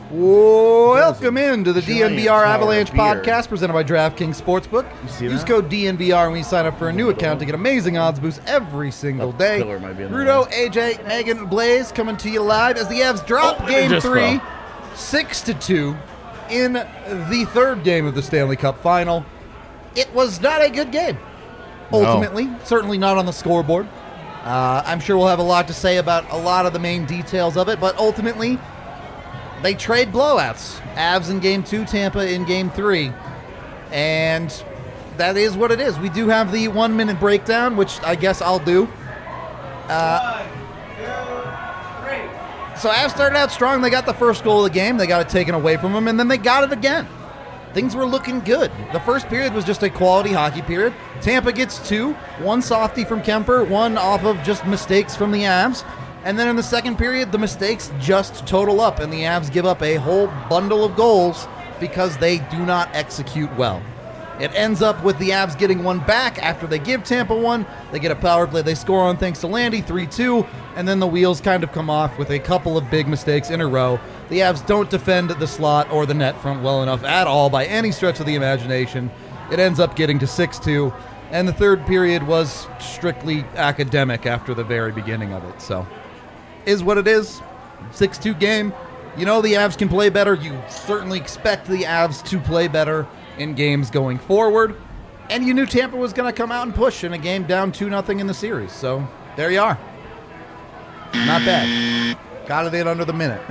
Welcome into the DNVR tower Avalanche of beer. podcast presented by DraftKings Sportsbook. Use code DNVR when you sign up for a new account to get amazing odds boosts every single day. pillar might be in the Rudo, AJ, Megan, Blaze coming to you live as the Avs drop Game 3, 6-2 in the third game of the Stanley Cup Final. It was not a good game, ultimately. Certainly not on the scoreboard. I'm sure we'll have a lot to say about a lot of the main details of it, but ultimately, they trade blowouts. Avs in Game 2, Tampa in Game 3. And that is what it is. We do have the 1 minute breakdown, which I guess I'll do. 1, 2, 3. So Avs started out strong. They got the first goal of the game. They got it taken away from them, and then they got it again. Things were looking good. The first period was just a quality hockey period. Tampa gets 2, 1 softie from Kemper, 1 off of just mistakes from the Avs. And then in the second period, the mistakes just total up, and the Avs give up a whole bundle of goals because they do not execute well. It ends up with the Avs getting one back after they give Tampa one. They get a power play. They score on thanks to Landy, 3-2, and then the wheels kind of come off with a couple of big mistakes in a row. The Avs don't defend the slot or the net front well enough at all by any stretch of the imagination. It ends up getting to 6-2, and the third period was strictly academic after the very beginning of it, so is what it is. 6-2 game. You know the Avs can play better. You certainly expect the Avs to play better in games going forward. And you knew Tampa was going to come out and push in a game down 2-0 in the series. So there you are. Not bad. Got it in under the minute.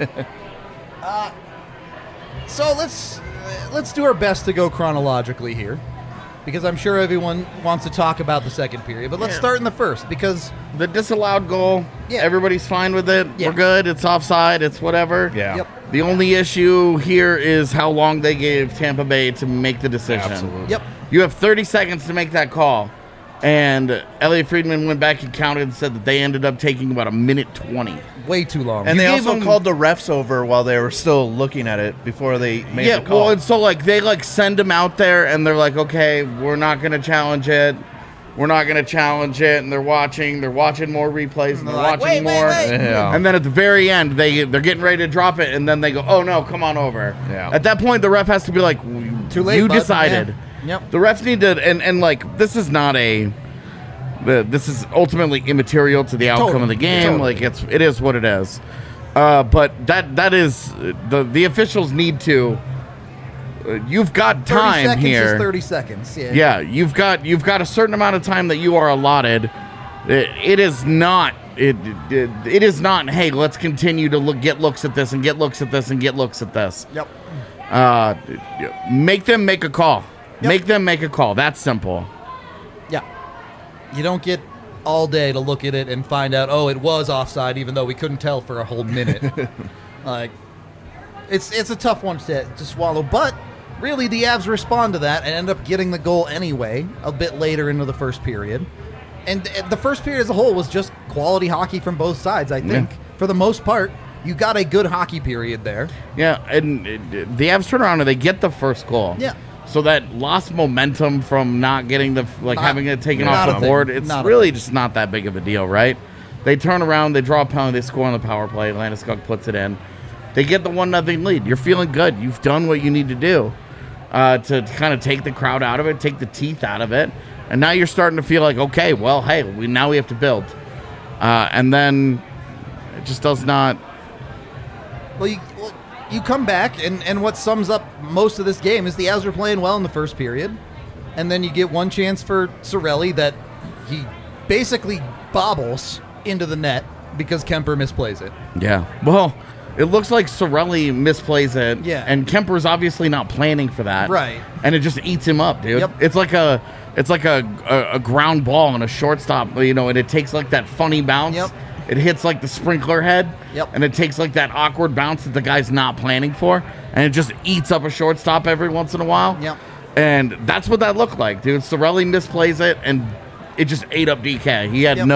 So let's do our best to go chronologically here, because I'm sure everyone wants to talk about the second period. But let's start in the first, because the disallowed goal, everybody's fine with it. We're good. It's offside. It's whatever. Yeah. Yep. The only issue here is how long they gave Tampa Bay to make the decision. Absolutely. Yep. You have 30 seconds to make that call. And Elliot Friedman went back and counted and said that they ended up taking about 1:20. way too long. And they gave also them- called the refs over while they were still looking at it before they made the call. Well, and so they send them out there and they're like, okay, we're not going to challenge it. We're not going to challenge it. And they're watching more replays, and they're like, watching wait, more. wait. Yeah. And then at the very end, they're getting ready to drop it, and then they go, oh no, come on over. Yeah. At that point, the ref has to be like, Too late, you bud." decided. Yeah. Yep. The refs need to, and this is not this is ultimately immaterial to the outcome of the game. Totally. It is what it is. But that is the officials need to. You've got 30 time seconds here. is 30 seconds. Yeah. Yeah, you've got a certain amount of time that you are allotted. It is not. It is not. Hey, let's continue to get looks at this and get looks at this and get looks at this. Yep. Make them make a call. Yep. Make them make a call. That's simple. Yeah. You don't get all day to look at it and find out, oh, it was offside, even though we couldn't tell for a whole minute. It's a tough one to swallow, but really the Avs respond to that and end up getting the goal anyway a bit later into the first period. And the first period as a whole was just quality hockey from both sides, I think. Yeah. For the most part, you got a good hockey period there. Yeah, and the Avs turn around and they get the first goal. Yeah. So that lost momentum from not getting having it taken not off a the board, thing. it's Not a really just not that big of a deal, right? They turn around, they draw a penalty, they score on the power play, Landeskog puts it in. They get the 1-0 lead. You're feeling good. You've done what you need to do to kind of take the crowd out of it, take the teeth out of it. And now you're starting to feel like, okay, well, hey, now we have to build. And then it just does not. Well, you come back, and what sums up most of this game is the Avs are playing well in the first period, and then you get one chance for Cirelli that he basically bobbles into the net because Kemper misplays it. Yeah. Well, it looks like Cirelli misplays it. Yeah. And Kemper's obviously not planning for that. Right. And it just eats him up, dude. Yep. It's like a ground ball and a shortstop, and it takes that funny bounce. Yep. It hits the sprinkler head. Yep. And it takes that awkward bounce that the guy's not planning for, and it just eats up a shortstop every once in a while. Yep. And that's what that looked like, dude. Cirelli misplays it, and it just ate up DK. He had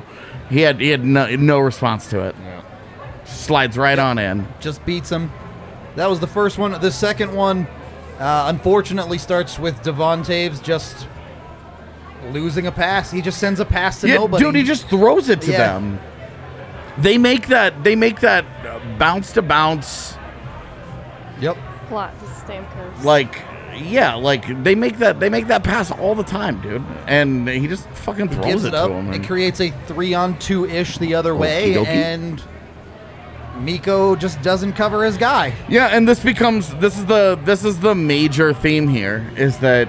no response to it. Yeah. Slides right on in. Just beats him. That was the first one. The second one, unfortunately, starts with Devon Taves just losing a pass. He just sends a pass to nobody. Dude, he just throws it to Yeah. them. They make that bounce to bounce Yep. Plot to Stamkos. Like, yeah, like they make that pass all the time, dude, and he just fucking throws Gives it it up. to him. It and- creates a 3-on-2-ish the other way, Okie dokie. and Miko just doesn't cover his guy. Yeah, and this is the major theme here is that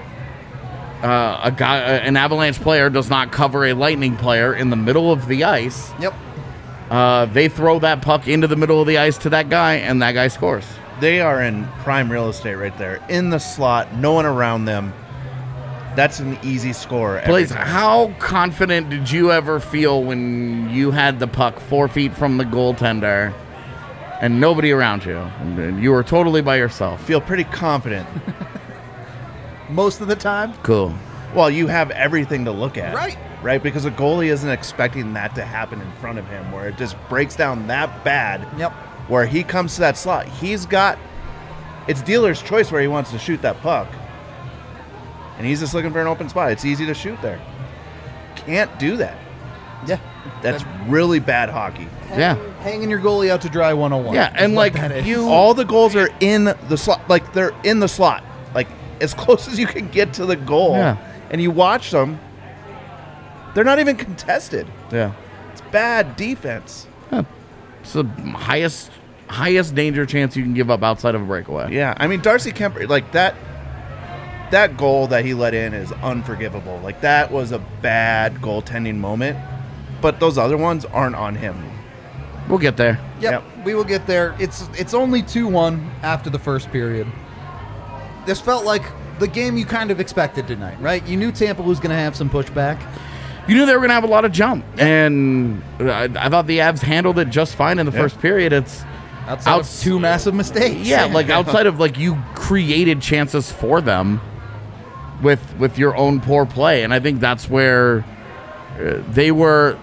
an Avalanche player does not cover a Lightning player in the middle of the ice. Yep. They throw that puck into the middle of the ice to that guy, and that guy scores. They are in prime real estate right there. In the slot, no one around them. That's an easy score. every Blaze, time. how confident did you ever feel when you had the puck 4 feet from the goaltender and nobody around you? And you were totally by yourself. Feel pretty confident. Most of the time. Cool. Well, you have everything to look at. Right. Right? Because a goalie isn't expecting that to happen in front of him, where it just breaks down that bad. Yep. Where he comes to that slot. It's dealer's choice where he wants to shoot that puck. And he's just looking for an open spot. It's easy to shoot there. Can't do that. Yeah. That's really bad hockey. Yeah. Hanging your goalie out to dry 101. Yeah, and is what like that is. All the goals are in the slot. Like, they're in the slot. Like, as close as you can get to the goal. Yeah. And you watch them, they're not even contested. Yeah. It's bad defense. It's the highest danger chance you can give up outside of a breakaway. Yeah. I mean, Darcy Kemper, like, that goal that he let in is unforgivable. Like, that was a bad goaltending moment. But those other ones aren't on him. We'll get there. Yep, we will get there. It's only 2-1 after the first period. This felt like the game you kind of expected tonight, right? You knew Tampa was going to have some pushback. You knew they were going to have a lot of jump, and I thought the Avs handled it just fine in the first period. It's Outside of two massive mistakes. yeah, like outside of like you created chances for them with your own poor play, and I think that's where they were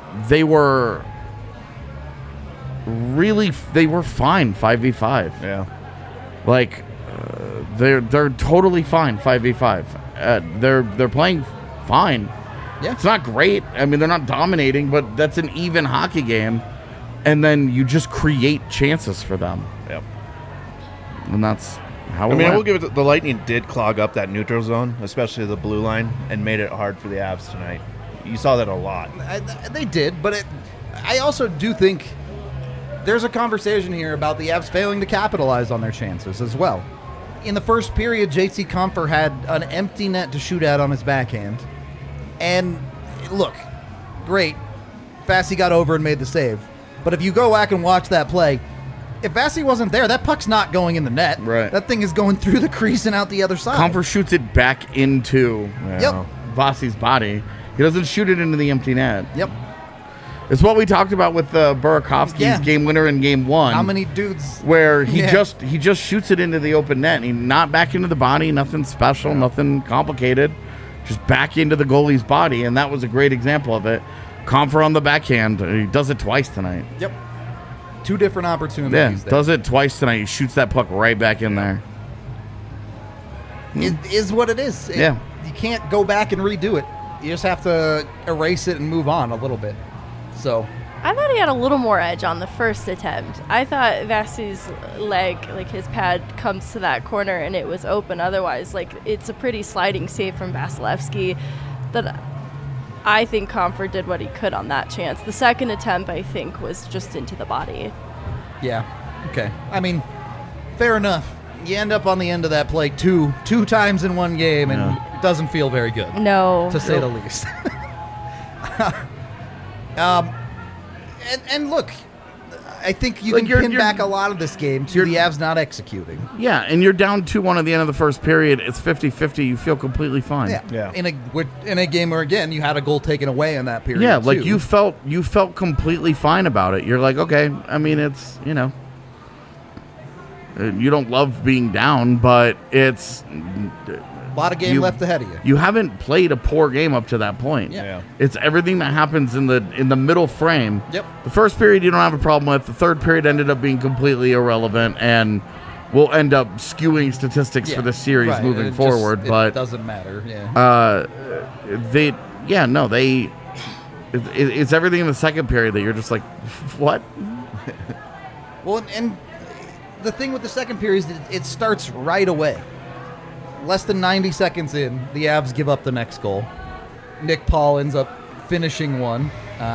fine 5v5. Yeah. Like they're totally fine 5v5. They're playing fine. Yeah. It's not great. I mean, they're not dominating, but that's an even hockey game. And then you just create chances for them. Yep. And that's how it I mean, I went. will give it. The Lightning did clog up that neutral zone, especially the blue line, and made it hard for the Avs tonight. You saw that a lot. They did, but I also do think there's a conversation here about the Avs failing to capitalize on their chances as well. In the first period, J.C. Compher had an empty net to shoot at on his backhand. And look, great. Vasi got over and made the save. But if you go back and watch that play, if Vasi wasn't there, that puck's not going in the net. Right. That thing is going through the crease and out the other side. Comfort shoots it back into Yep. Vasi's body. He doesn't shoot it into the empty net. Yep. It's what we talked about with Burakovsky's Yeah. game winner in game one. How many dudes? Where he Yeah. just shoots it into the open net. He not back into the body, nothing special, nothing complicated. Just back into the goalie's body, and that was a great example of it. Comfer on the backhand. He does it twice tonight. Yep. Two different Yeah, opportunities. does it twice tonight. He shoots that puck right back in there. It is what it is. Yeah. You can't go back and redo it. You just have to erase it and move on a little bit. So, I thought he had a little more edge on the first attempt. I thought Vasi's leg, like his pad, comes to that corner and it was open. Otherwise, like, it's a pretty sliding save from Vasilevsky that I think Comfort did what he could on that chance. The second attempt, I think, was just into the body. yeah. Okay. I mean, fair enough. You end up on the end of that play two times in one game, and it doesn't feel very good, No. to say the least. And look, I think you Like, can pin you're- back a lot of this game to the Avs not executing. Yeah, and you're down 2-1 at the end of the first period. It's 50-50. You feel completely fine. Yeah. In a game where, again, you had a goal taken away in that period. Yeah, like too. you felt completely fine about it. You're like, okay, I mean, it's, you don't love being down, but it's a lot of game left ahead of you. You haven't played a poor game up to that point. Yeah. It's everything that happens in the middle frame. Yep. The first period you don't have a problem with. The third period ended up being completely irrelevant and will end up skewing statistics for the series Right, moving it forward. it But doesn't matter. Yeah. it's everything in the second period that you're just like, what? Well, and the thing with the second period is it starts right away. Less than 90 seconds in, the Avs give up the next goal. Nick Paul ends up finishing one.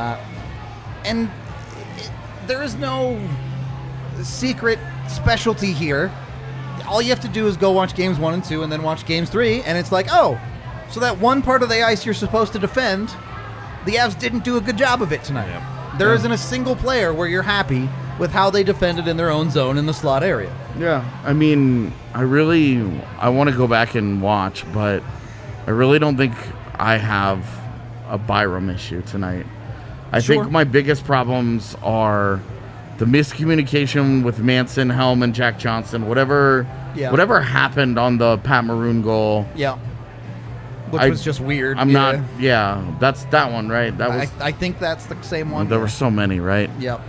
And there is no secret specialty here. All you have to do is go watch games 1 and 2 and then watch games 3, and it's like, oh, so that one part of the ice you're supposed to defend, the Avs didn't do a good job of it tonight. Yep. There isn't a single player where you're happy with how they defended in their own zone in the slot area. Yeah, I mean, I want to go back and watch, but I really don't think I have a Byram issue tonight. I Sure. think my biggest problems are the miscommunication with Manson, Helm, and Jack Johnson. Whatever happened on the Pat Maroon goal. Yeah. Which was just weird. That's that one, right? That was. I think that's the same one. There were so many, right? Yep.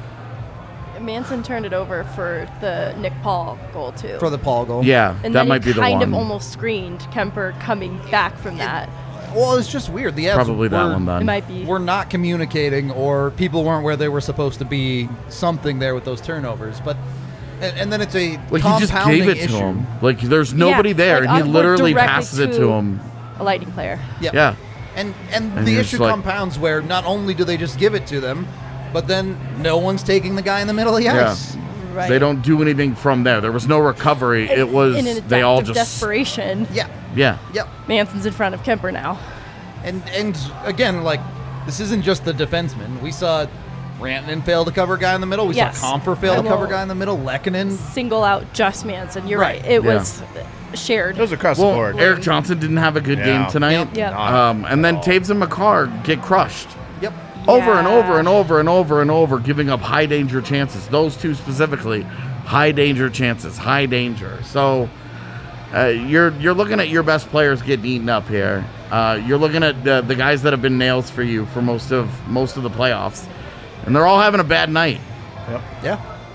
Manson turned it over for the Nick Paul goal too. For the Paul goal. Yeah, and that then might he be the kind one. of almost screened Kemper coming back from that. Well, it's just weird. The Avs Probably that one It then. might be. We're not communicating, or people weren't where they were supposed to be. Something there with those turnovers, but and then it's a Like he just compounding gave it issue. to him. Like there's nobody Yeah, there, like, and he we're literally directly passes it to him. A Lightning player. Yep. Yeah. And And the you're issue just like- compounds where not only do they just give it to them, but then no one's taking the guy in the middle of the Yeah. ice. Right. They don't do anything from there. There was no recovery. It was in an they all act of just desperation. Yeah. yeah. Yep. Manson's in front of Kemper now. And again, like, this isn't just the defenseman. We saw Rantanen fail to cover a guy in the middle. We Yes. saw Comfer fail I to cover a will guy in the middle. Lehkonen. Single out just Manson. You're Right. right. It Yeah. was shared. It was across the Well, board. Eric Johnson didn't have a good game Yeah. tonight. Yep. And then Taves and McCarr get crushed. Yep. Over and Yeah. over and over and over and over, giving up high danger chances. Those two specifically, high danger chances, high danger. So you're looking at your best players getting eaten up here. You're looking at the guys that have been nails for you for most of the playoffs, and they're all having a bad night. Yep. Yeah.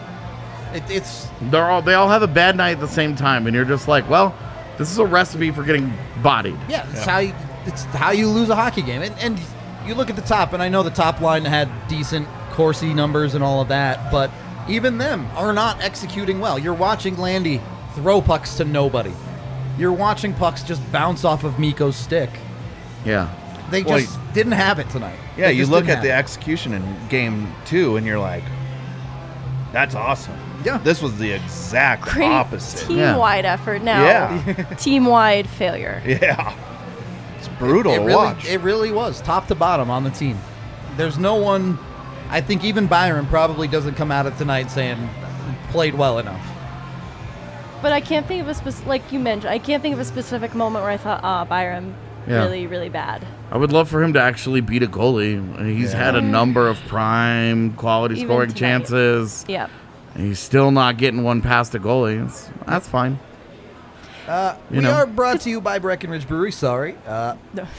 It's They all have a bad night at the same time, and you're just like, well, this is a recipe for getting bodied. yeah. It's how you lose a hockey game. And you look at the top, and I know the top line had decent Corsi numbers and all of that, but even them are not executing well. You're watching Landy throw pucks to nobody. You're watching pucks just bounce off of Mikko's stick. Yeah. They Well, just didn't have it tonight. Yeah, They you just look didn't at the have it. execution in game 2, and you're like, that's awesome. Yeah. This was the exact Great opposite. team-wide effort. Now, Yeah. team-wide failure. Yeah. It's brutal It to really, watch. it really was top to bottom on the team. There's no one. I think even Byron probably doesn't come out of tonight saying played well enough. But I can't think of a like you mentioned, I can't think of a specific moment where I thought, Byram, Yeah. really, really bad. I would love for him to actually beat a goalie. He's had a number of prime quality Even scoring tonight. chances. Yep. And he's still not getting one past a goalie. That's fine. We know. are brought to you by Breckenridge Brewery. Sorry. No.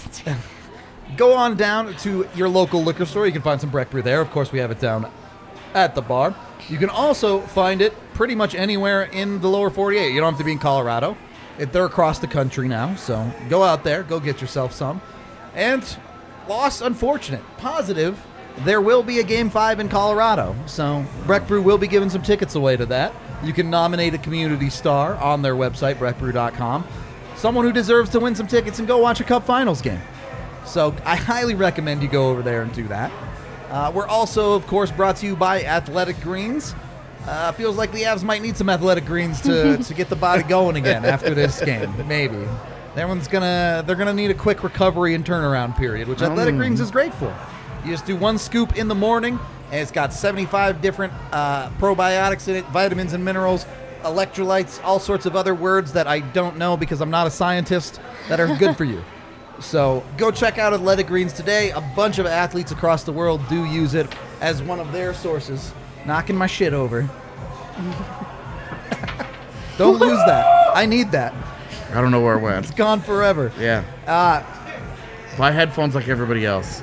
Go on down to your local liquor store. You can find some Breck Brew there. Of course, we have it down at the bar. You can also find it pretty much anywhere in the lower 48. You don't have to be in Colorado. They're across the country now, so go out there. Go get yourself some. And loss, unfortunate. Positive, there will be a Game 5 in Colorado. So Breck Brew will be giving some tickets away to that. You can nominate a community star on their website, breckbrew.com. Someone who deserves to win some tickets and go watch a Cup Finals game. So I highly recommend you go over there and do that. We're also, of course, brought to you by Athletic Greens. Feels like the Avs might need some Athletic Greens to get the body going again after this game. Maybe. They're gonna need a quick recovery and turnaround period, which Athletic Greens is great for. You just do one scoop in the morning, and it's got 75 different probiotics in it, vitamins and minerals, electrolytes, all sorts of other words that I don't know because I'm not a scientist that are good for you. So go check out Athletic Greens today. A bunch of athletes across the world do use it as one of their sources. Knocking my shit over. Don't lose that. I need that. I don't know where it went. It's gone forever. Yeah. Buy headphones like everybody else.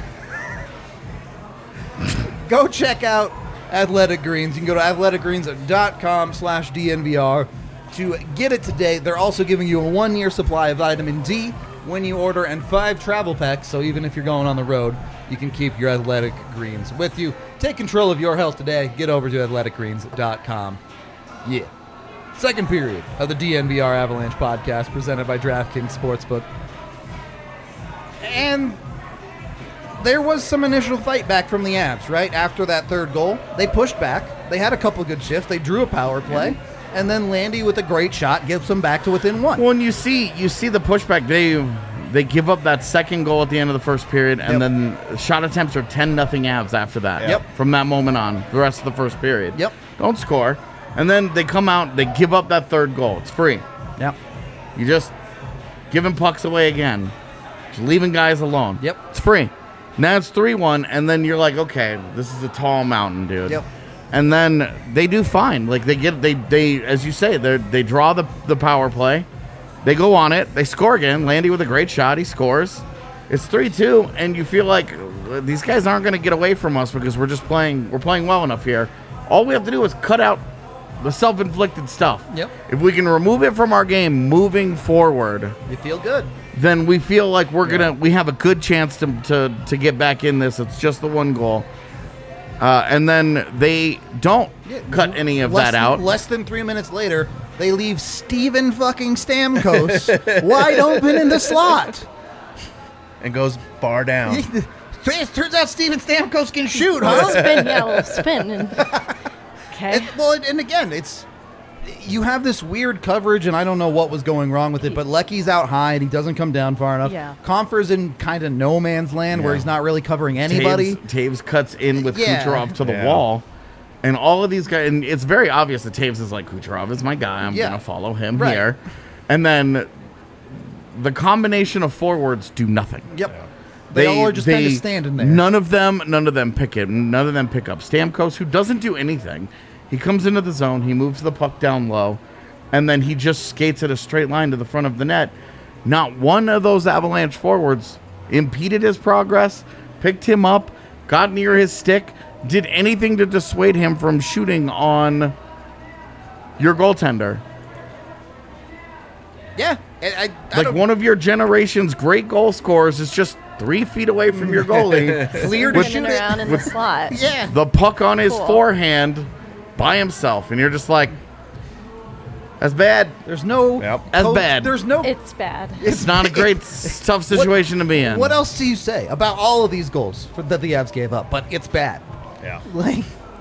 Go check out Athletic Greens. You can go to athleticgreens.com/DNVR to get it today. They're also giving you a 1-year supply of vitamin D when you order and 5 travel packs. So even if you're going on the road, you can keep your Athletic Greens with you. Take control of your health today. Get over to athleticgreens.com. Yeah. Second period of the DNVR Avalanche podcast presented by DraftKings Sportsbook. And there was some initial fight back from the Avs, right? After that third goal, they pushed back. They had a couple good shifts. They drew a power play. And then Landy with a great shot gives them back to within one. Well, and you see the pushback. They give up that second goal at the end of the first period, and then shot attempts are 10-0 Avs after that. Yep. From that moment on, the rest of the first period. Yep. Don't score. And then they come out, they give up that third goal. It's free. Yep. You just giving pucks away again. Just leaving guys alone. Yep. It's free. Now it's 3-1, and then you're like, okay, this is a tall mountain, dude. Yep. And then they do fine. Like they as you say, they draw the power play. They go on it. They score again. Landy with a great shot. He scores. It's 3-2, and you feel like these guys aren't going to get away from us because we're playing well enough here. All we have to do is cut out the self-inflicted stuff. Yep. If we can remove it from our game moving forward, You feel good. then we feel like we have a good chance to get back in this. It's just the one goal. And then they don't cut any of that out. Less than 3 minutes later, they leave Steven fucking Stamkos wide open in the slot. And goes bar down. It turns out Steven Stamkos can shoot, huh? Spin. Okay. And again, you have this weird coverage, and I don't know what was going wrong with it, but Lecky's out high, and he doesn't come down far enough. Yeah. Confer's in kind of no man's land where he's not really covering anybody. Taves cuts in with Kucherov to the Yeah. wall. And all of these guys, and it's very obvious that Taves is like, Kucherov is my guy. I'm going to follow him here. And then the combination of forwards do nothing. Yep. They all are just kind of standing there. None of them pick it. None of them pick up. Stamkos, who doesn't do anything, he comes into the zone, he moves the puck down low, and then he just skates at a straight line to the front of the net. Not one of those Avalanche forwards impeded his progress, picked him up, got near his stick, did anything to dissuade him from shooting on your goaltender. Yeah. I Like one of your generation's great goal scorers is just 3 feet away from your goalie. clear to Spinning shoot it. around in the slot. Yeah. The puck on his Cool. forehand by himself. And you're just like, that's bad. There's no... That's bad. There's no... It's bad. It's not a great, tough situation to be in. What else do you say about all of these goals that the Avs gave up? But it's bad. Yeah. Like,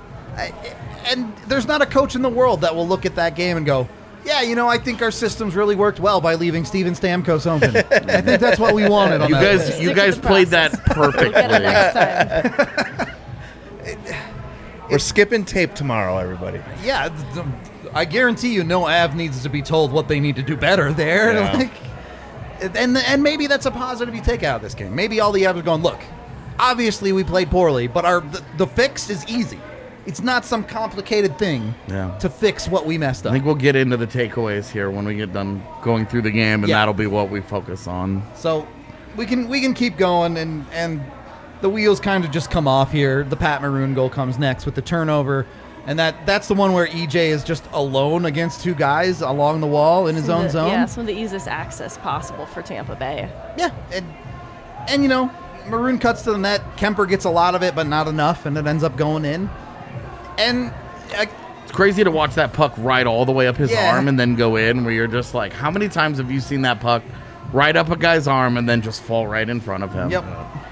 and there's not a coach in the world that will look at that game and go, yeah, I think our systems really worked well by leaving Steven Stamkos open. I think that's what we wanted on You that guys, play. you Stick to guys the played process. that perfectly. We'll get it next time. We're skipping tape tomorrow, everybody. Yeah, I guarantee you no Av needs to be told what they need to do better there. Yeah. Like, and maybe that's a positive you take out of this game. Maybe all the Avs are going, look, obviously we played poorly, but the fix is easy. It's not some complicated thing to fix what we messed I up. think we'll get into the takeaways here when we get done going through the game, and Yeah. that'll be what we focus on. So we can keep going, and the wheels kind of just come off here. The Pat Maroon goal comes next with the turnover, and that's the one where EJ is just alone against two guys along the wall in his own zone. Yeah, some of the easiest access possible for Tampa Bay. Yeah, and Maroon cuts to the net. Kemper gets a lot of it, but not enough, and it ends up going in. And It's crazy to watch that puck ride all the way up his Yeah. arm and then go in, where you're just like, how many times have you seen that puck ride up a guy's arm and then just fall right in front of him? yep.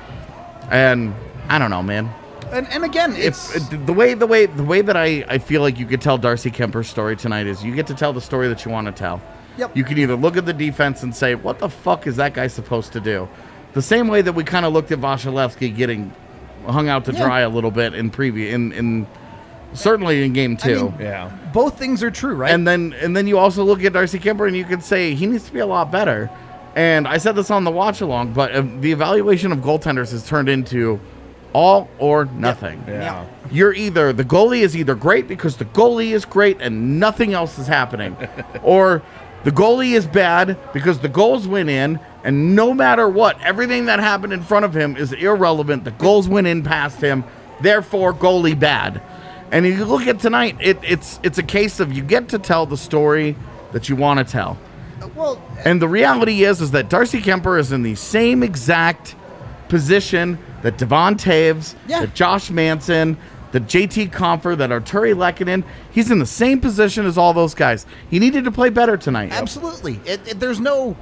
And I don't know, man. And again, it's The way that I feel like you could tell Darcy Kemper's story tonight is you get to tell the story that you want to tell. Yep. You can either look at the defense and say, what the fuck is that guy supposed to do? The same way that we kind of looked at Vasilevsky getting hung out to dry a little bit in certainly in game 2. I mean, Yeah. both things are true, right? And then you also look at Darcy Kemper and you can say he needs to be a lot better. And I said this on the watch along, but the evaluation of goaltenders has turned into all or nothing. Yeah. The goalie is either great because the goalie is great and nothing else is happening, or the goalie is bad because the goals went in, and no matter what, everything that happened in front of him is irrelevant. The goals went in past him, therefore goalie bad. And if you look at tonight, it's a case of you get to tell the story that you want to tell. well, And the reality is that Darcy Kemper is in the same exact position that Devon Taves, Yeah. that Josh Manson, that JT Compher, that Arturi Lehkonen, he's in the same position as all those guys. He needed to play better tonight. Absolutely. There's no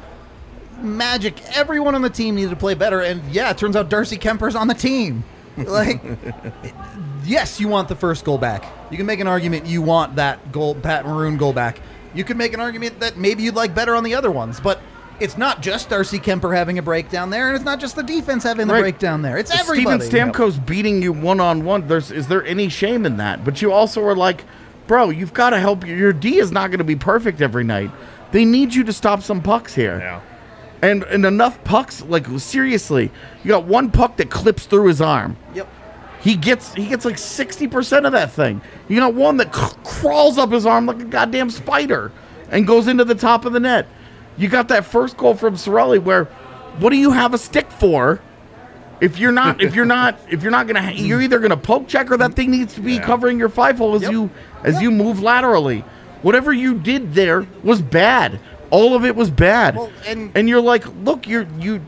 magic. Everyone on the team needed to play better, and yeah, it turns out Darcy Kemper's on the team. Like, yes, you want the first goal back. You can make an argument you want that goal, Pat Maroon goal back. You could make an argument that maybe you'd like better on the other ones, but it's not just Darcy Kemper having a breakdown there, and it's not just the defense having the breakdown there. It's everybody. Steven Stamkos beating you one-on-one. Is there any shame in that? But you also are like, bro, you've got to help. Your D is not going to be perfect every night. They need you to stop some pucks here. Yeah. And enough pucks, like, seriously, you got one puck that clips through his arm. Yep. He gets like 60% of that thing. You got one that crawls up his arm like a goddamn spider and goes into the top of the net. You got that first goal from Cirelli where, what do you have a stick for? If you're not gonna, you're either gonna poke check or that thing needs to be covering your 5-hole as you move laterally. Whatever you did there was bad. All of it was bad. Well, and you're like, look, you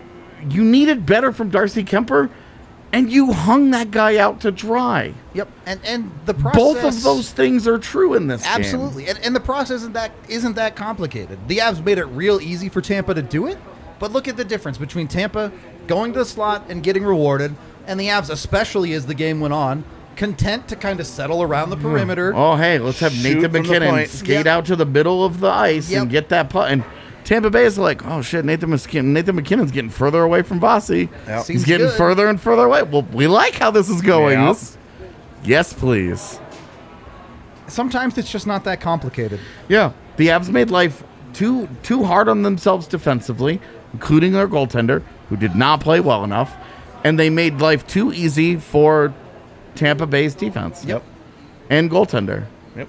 needed better from Darcy Kemper, and you hung that guy out to dry. Yep. And the process. Both of those things are true in this game. Absolutely. And the process isn't that complicated. The Avs made it real easy for Tampa to do it, but look at the difference between Tampa going to the slot and getting rewarded, and the Avs, especially as the game went on, content to kind of settle around the perimeter. Oh, hey, let's have Shoot Nathan from the skate point. out to the middle of the ice and get that putt. And Tampa Bay is like, oh, shit, Nathan McKinnon's getting further away from Vasi. Yep. He's getting further and further away. Well, we like how this is going. Yep. Yes, please. Sometimes it's just not that complicated. Yeah, the Avs made life too hard on themselves defensively, including their goaltender, who did not play well enough, and they made life too easy for Tampa Bay's defense. Yep. And goaltender. Yep.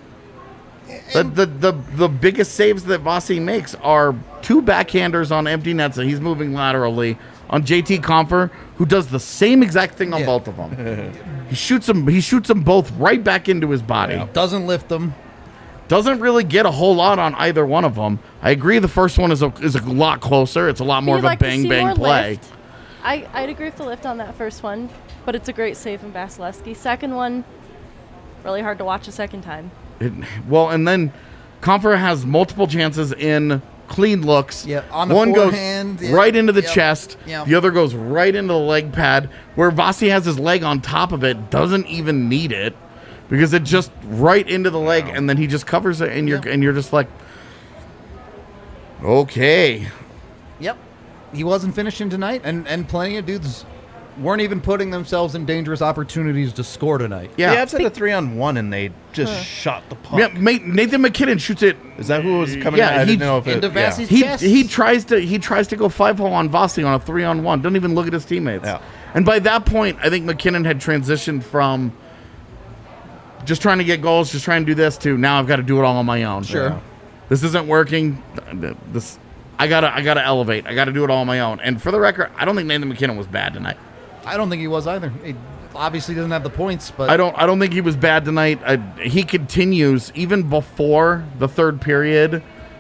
The biggest saves that Vasi makes are two backhanders on empty nets that he's moving laterally on JT Compher, who does the same exact thing on both of them. He shoots them both right back into his body. Yeah. Doesn't lift them. Doesn't really get a whole lot on either one of them. I agree the first one is a lot closer. It's a lot more of a bang play. Lift. I'd agree with the lift on that first one, but it's a great save from Vasilevsky. Second one, really hard to watch a second time. And then Compher has multiple chances in clean looks. Yeah, on the one forehand, goes right into the chest. Yep. The other goes right into the leg pad, where Vasi has his leg on top of it, doesn't even need it, because it just right into the leg, and then he just covers it, and you're just like, okay. Yep. He wasn't finishing tonight, and plenty of dudes weren't even putting themselves in dangerous opportunities to score tonight. Yeah. The Avs had a 3-on-1 and they just shot the puck. Yeah, Nathan McKinnon shoots it. Is that who was coming? Yeah, I he- didn't know if it. into Vasi's Yeah. chest. He tries to go 5-hole on Vasi on a 3-on-1. Don't even look at his teammates. Yeah. And by that point, I think McKinnon had transitioned from just trying to get goals, just trying to do this, to now I've got to do it all on my own. Sure. Yeah. This isn't working. I gotta elevate. I gotta do it all on my own. And for the record, I don't think Nathan McKinnon was bad tonight. I don't think he was either. He obviously doesn't have the points, but I don't think he was bad tonight. He continues even before the third period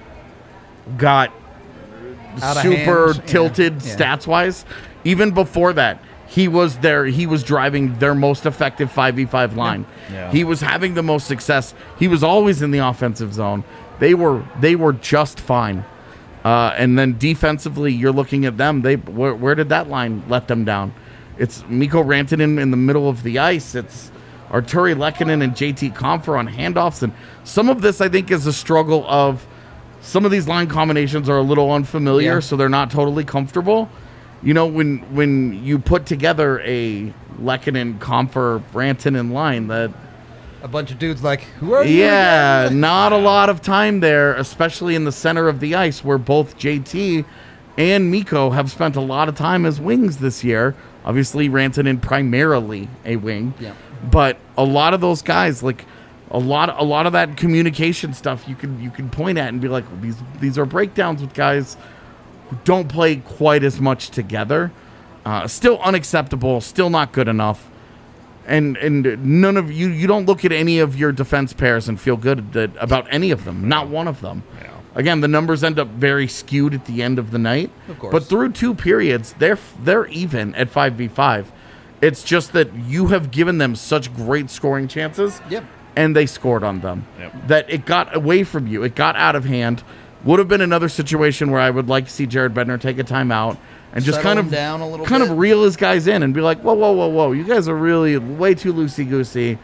got Out of super hand. tilted Yeah. stats wise. Even before that, he was there. He was driving their most effective 5v5 line. Yeah. He was having the most success. He was always in the offensive zone. They were just fine. And then defensively, you're looking at them. Where did that line let them down? It's Mikko Rantanen in the middle of the ice. It's Arturi Lehkonen and JT Compher on handoffs. And some of this, I think, is a struggle of some of these line combinations are a little unfamiliar, Yeah. so they're not totally comfortable. You know, when you put together a Lehkonen, Compher, Rantanen line, that a bunch of dudes like, who are you? yeah, again? not a lot of time there, especially in the center of the ice, where both JT and Mikko have spent a lot of time as wings this year. Obviously, Rantanen primarily a wing, Yeah. but a lot of those guys, like a lot of that communication stuff, you can point at and be like, these are breakdowns with guys who don't play quite as much together. Still unacceptable, still not good enough. And none of you don't look at any of your defense pairs and feel good about any of them. Not one of them. Yeah. Again, the numbers end up very skewed at the end of the night. Of course. But through two periods, they're even at 5v5. It's just that you have given them such great scoring chances. Yep. And they scored on them. Yep. That it got away from you. It got out of hand. Would have been another situation where I would like to see Jared Bednar take a timeout and just Settle kind him of down a little kind bit. of reel his guys in and be like, whoa. You guys are really way too loosey-goosey.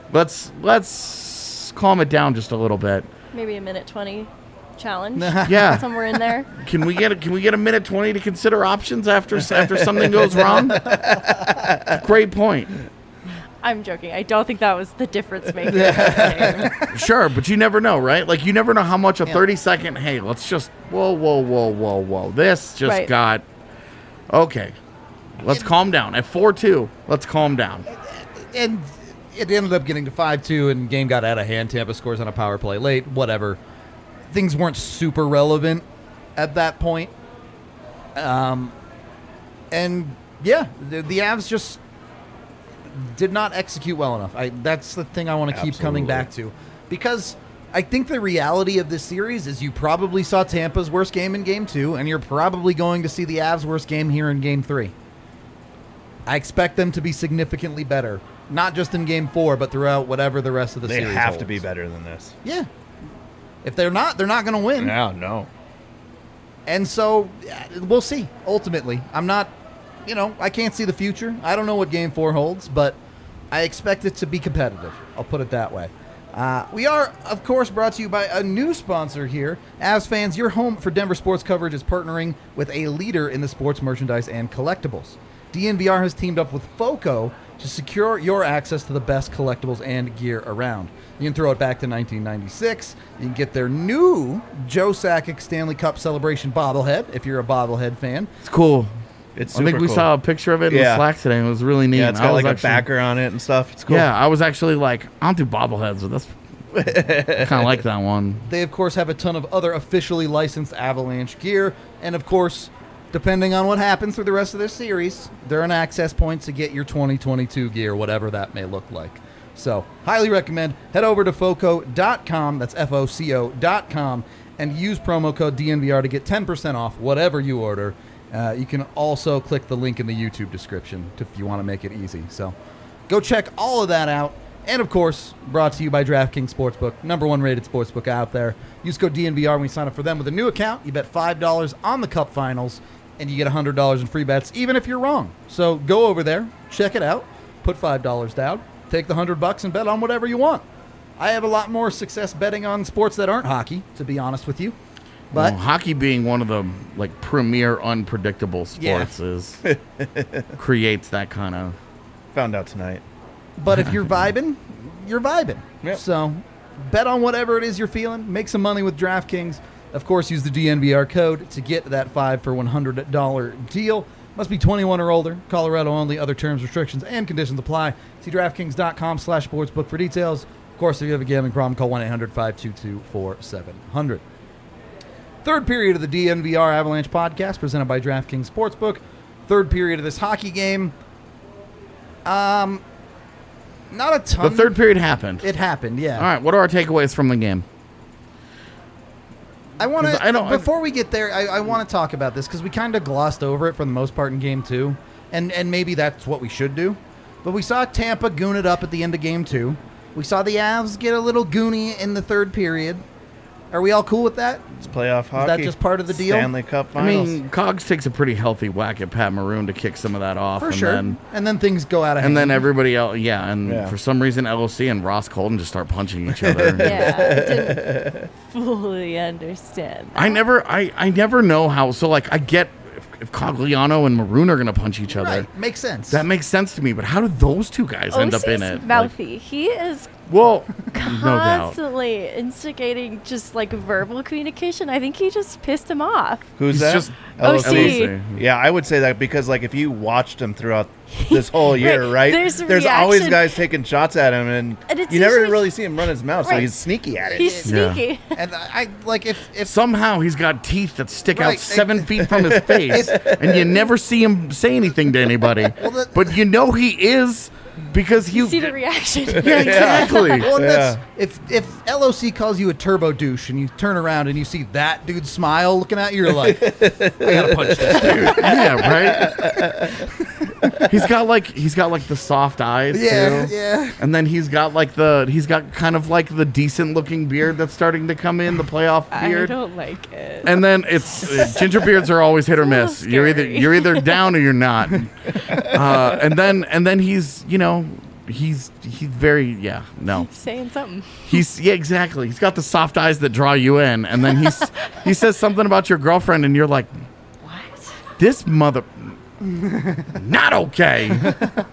Let's calm it down just a little bit. Maybe a minute 20 challenge. Yeah. Somewhere in there. Can we get a minute 20 to consider options after something goes wrong? Great point. I'm joking. I don't think that was the difference maker. in this game. Sure, but you never know, right? Like, you never know how much a 30-second, hey, let's just, whoa. This just Right. got, okay. Let's calm down. At 4-2, let's calm down. And it ended up getting to 5-2, and game got out of hand. Tampa scores on a power play late. Whatever. Things weren't super relevant at that point. And yeah, the Avs just did not execute well enough. That's the thing I want to keep coming back to, because I think the reality of this series is you probably saw Tampa's worst game in Game 2, and you're probably going to see the Avs' worst game here in Game 3. I expect them to be significantly better, not just in Game 4, but throughout whatever the rest of the They series have holds. to be better than this. Yeah. If they're not going to win. No. And so we'll see, ultimately. I'm not, I can't see the future. I don't know what Game 4 holds, but I expect it to be competitive. I'll put it that way. We are, of course, brought to you by a new sponsor here. Avs fans, your home for Denver sports coverage is partnering with a leader in the sports merchandise and collectibles. DNVR has teamed up with FOCO to secure your access to the best collectibles and gear around. You can throw it back to 1996. You can get their new Joe Sakic Stanley Cup Celebration bobblehead if you're a bobblehead fan. It's cool. It's I think super we cool. saw a picture of it in the Yeah. Slack today. It was really neat. Yeah, it's I got was like actually- a backer on it and stuff. It's cool. Yeah, I was actually like, I don't do bobbleheads, but that's kind of like that one. They, of course, have a ton of other officially licensed Avalanche gear. And, of course, depending on what happens through the rest of this series, they're an access point to get your 2022 gear, whatever that may look like. So, highly recommend. Head over to foco.com, that's FOCO.com, and use promo code DNVR to get 10% off whatever you order. You can also click the link in the YouTube description if you want to make it easy. So, go check all of that out. And, of course, brought to you by DraftKings Sportsbook, #1 rated sportsbook out there. Use code DNVR when you sign up for them with a new account. You bet $5 on the Cup Finals, and you get $100 in free bets, even if you're wrong. So go over there, check it out, put $5 down, take the $100 and bet on whatever you want. I have a lot more success betting on sports that aren't hockey, to be honest with you. But Well, hockey being one of the premier unpredictable sports creates that kind of. Found out tonight. But if you're vibing, you're vibing. Yep. So bet on whatever it is you're feeling. Make some money with DraftKings. Of course, use the DNVR code to get that 5 for $100 deal. Must be 21 or older. Colorado only. Other terms, restrictions, and conditions apply. See DraftKings.com/sportsbook for details. Of course, if you have a gambling problem, call 1-800-522-4700. Third period of the DNVR Avalanche podcast presented by DraftKings Sportsbook. Third period of this hockey game. Not a ton. The third period happened. It happened, yeah. All right, what are our takeaways from the game? I want 'Cause I don't- to, before we get there, I want to talk about this because we kind of glossed over it for the most part in Game 2, and maybe that's what we should do. But we saw Tampa goon it up at the end of Game 2. We saw the Avs get a little goony in the third period. Are we all cool with that? It's playoff hockey. that just part of the deal? Stanley Cup I Finals. mean, Cogs takes a pretty healthy whack at Pat Maroon to kick some of that off. For and sure. Then, And then things go out of hand. and then everybody else, yeah. And Yeah. for some reason, LOC and Ross Colton just start punching each other. Yeah, I didn't fully understand. I never know how. So, I get if Cogliano and Maroon are going to punch each other. Right, makes sense. That makes sense to me. But how do those two guys end up in OC's it? mouthy. He is Well, no doubt. constantly instigating just verbal communication. I think he just pissed him off. Who's He's that? just OC. Yeah, I would say that because if you watched him throughout this whole year, Right, right? there's a always reaction. guys taking shots at him, and it's you never usually- really see him run his mouth, so Right. he's sneaky at it. He's Yeah. sneaky. and I if Somehow he's got teeth that stick Right. out 7 feet from his face, and you never see him say anything to anybody. Well, but you know he is because You see the reaction. yeah, exactly. Well, Yeah. if LOC calls you a turbo douche and you turn around and you see that dude's smile looking at you, you're like, I gotta punch this dude. Yeah, right. He's got like the soft eyes Yeah, too. yeah. And then he's got kind of like the decent looking beard that's starting to come in, the playoff I beard. don't like it. And then it's ginger beards are always hit or miss. little You're scary. either down or you're not. And then he's he's very no. Saying something. Exactly. He's got the soft eyes that draw you in, and then he says something about your girlfriend, and you're like, What? this mother, not okay.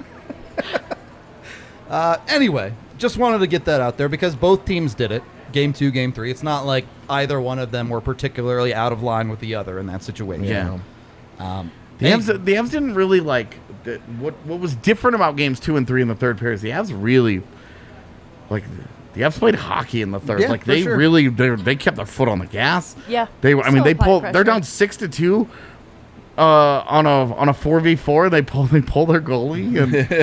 Anyway, just wanted to get that out there because both teams did it. Game 2, Game 3. It's not like either one of them were particularly out of line with the other in that situation. Yeah. The Hey, Avs didn't really like what was different about games 2 and 3 in the third periods. The Avs really the Avs played hockey in the third. Yeah, Like for they sure. really they kept their foot on the gas. Yeah. They Still they apply pulled. They're pressure. down 6-2 on a 4v4. They pull their goalie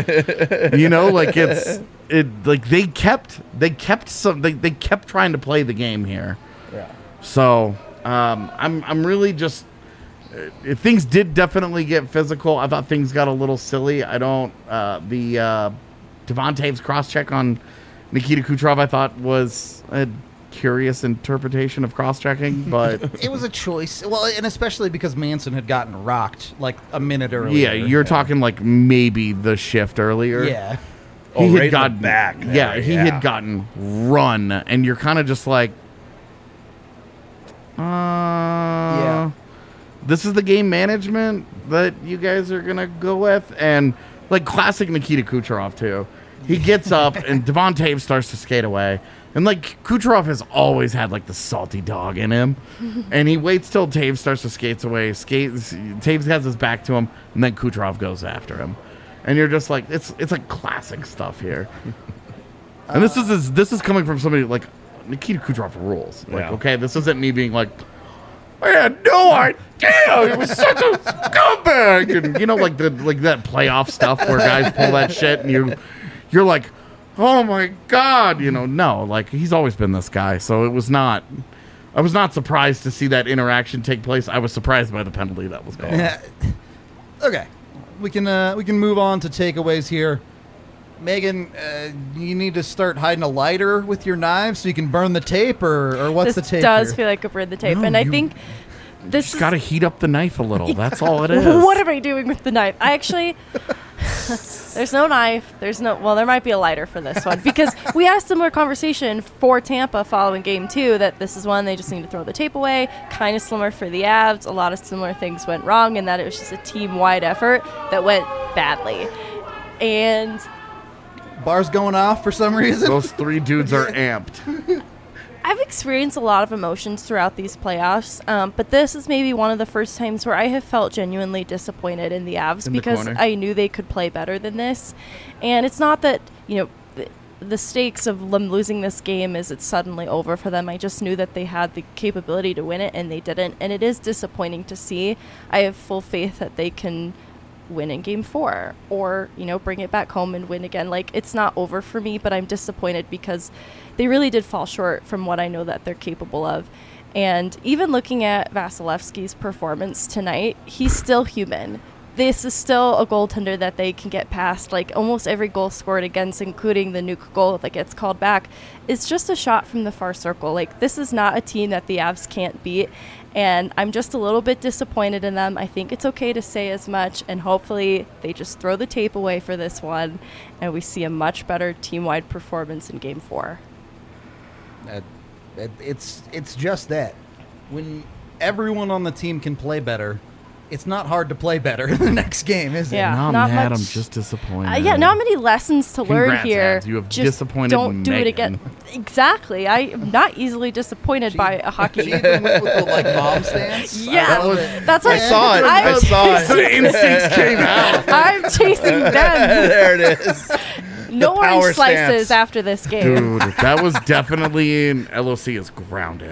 and they kept trying to play the game here. Yeah. So I'm really just things did definitely get physical. I thought things got a little silly. I don't the Devontae's cross check on Nikita Kucherov I thought was a curious interpretation of cross checking, but it was a choice. Well, and especially because Manson had gotten rocked like a minute earlier. yeah, you're talking like maybe the shift earlier. Yeah. Oh, He right had in the gotten back there, Yeah, he yeah. had gotten run, and you're kind of just like, Yeah. this is the game management that you guys are gonna go with, and like classic Nikita Kucherov too. He gets up, and Devon Taves starts to skate away, and like Kucherov has always had like the salty dog in him, and he waits till Taves starts to skate away. Taves has his back to him, and then Kucherov goes after him. And you're just like, it's like classic stuff here. And this is coming from somebody like Nikita Kucherov rules. Like, Yeah. okay, this isn't me being like, I had no idea he was such a scumbag, and like that playoff stuff where guys pull that shit, and you're like, oh my god, no, like he's always been this guy. So I was not surprised to see that interaction take place. I was surprised by the penalty that was called. Okay. We can move on to takeaways here. Megan, you need to start hiding a lighter with your knives so you can burn the tape, or what's This the tape does here? feel like a burn the tape, No, and I you think this Just is got to heat up the knife a little. That's all it is. What am I doing with the knife? I actually, there's no knife. Well, there might be a lighter for this one because we had a similar conversation for Tampa following game 2 that this is one they just need to throw the tape away. Kind of similar for the Avs. A lot of similar things went wrong and that it was just a team-wide effort that went badly. And Bar's going off for some reason. Those three dudes are amped. I've experienced a lot of emotions throughout these playoffs, but this is maybe one of the first times where I have felt genuinely disappointed in the Avs In the because corner. I knew they could play better than this. And it's not that, the stakes of them losing this game is it's suddenly over for them. I just knew that they had the capability to win it, and they didn't. And it is disappointing to see. I have full faith that they can win in game 4 or bring it back home and win again. Like, it's not over for me, but I'm disappointed because they really did fall short from what I know that they're capable of. And even looking at Vasilevsky's performance tonight, he's still human. This is still a goaltender that they can get past. Like, almost every goal scored against, including the nuke goal that gets called back, is just a shot from the far circle. Like, this is not a team that the Avs can't beat. And I'm just a little bit disappointed in them. I think it's okay to say as much, and hopefully they just throw the tape away for this one, and we see a much better team-wide performance in Game 4. It's just that. When everyone on the team can play better, it's not hard to play better in the next game, is it? Yeah. Now I'm not mad. much- I'm just disappointed. Yeah, not many lessons to learn Congrats, here. Avs. You have Just disappointed don't do it Megan. again. Exactly. I am not easily disappointed by a hocky. She even went with the mom stance. I Yeah, love it. that's I what saw it. I saw it. The instincts came out. I'm chasing them. There it is. No power orange slices stance. after this game. Dude, that was definitely in LOC is grounded.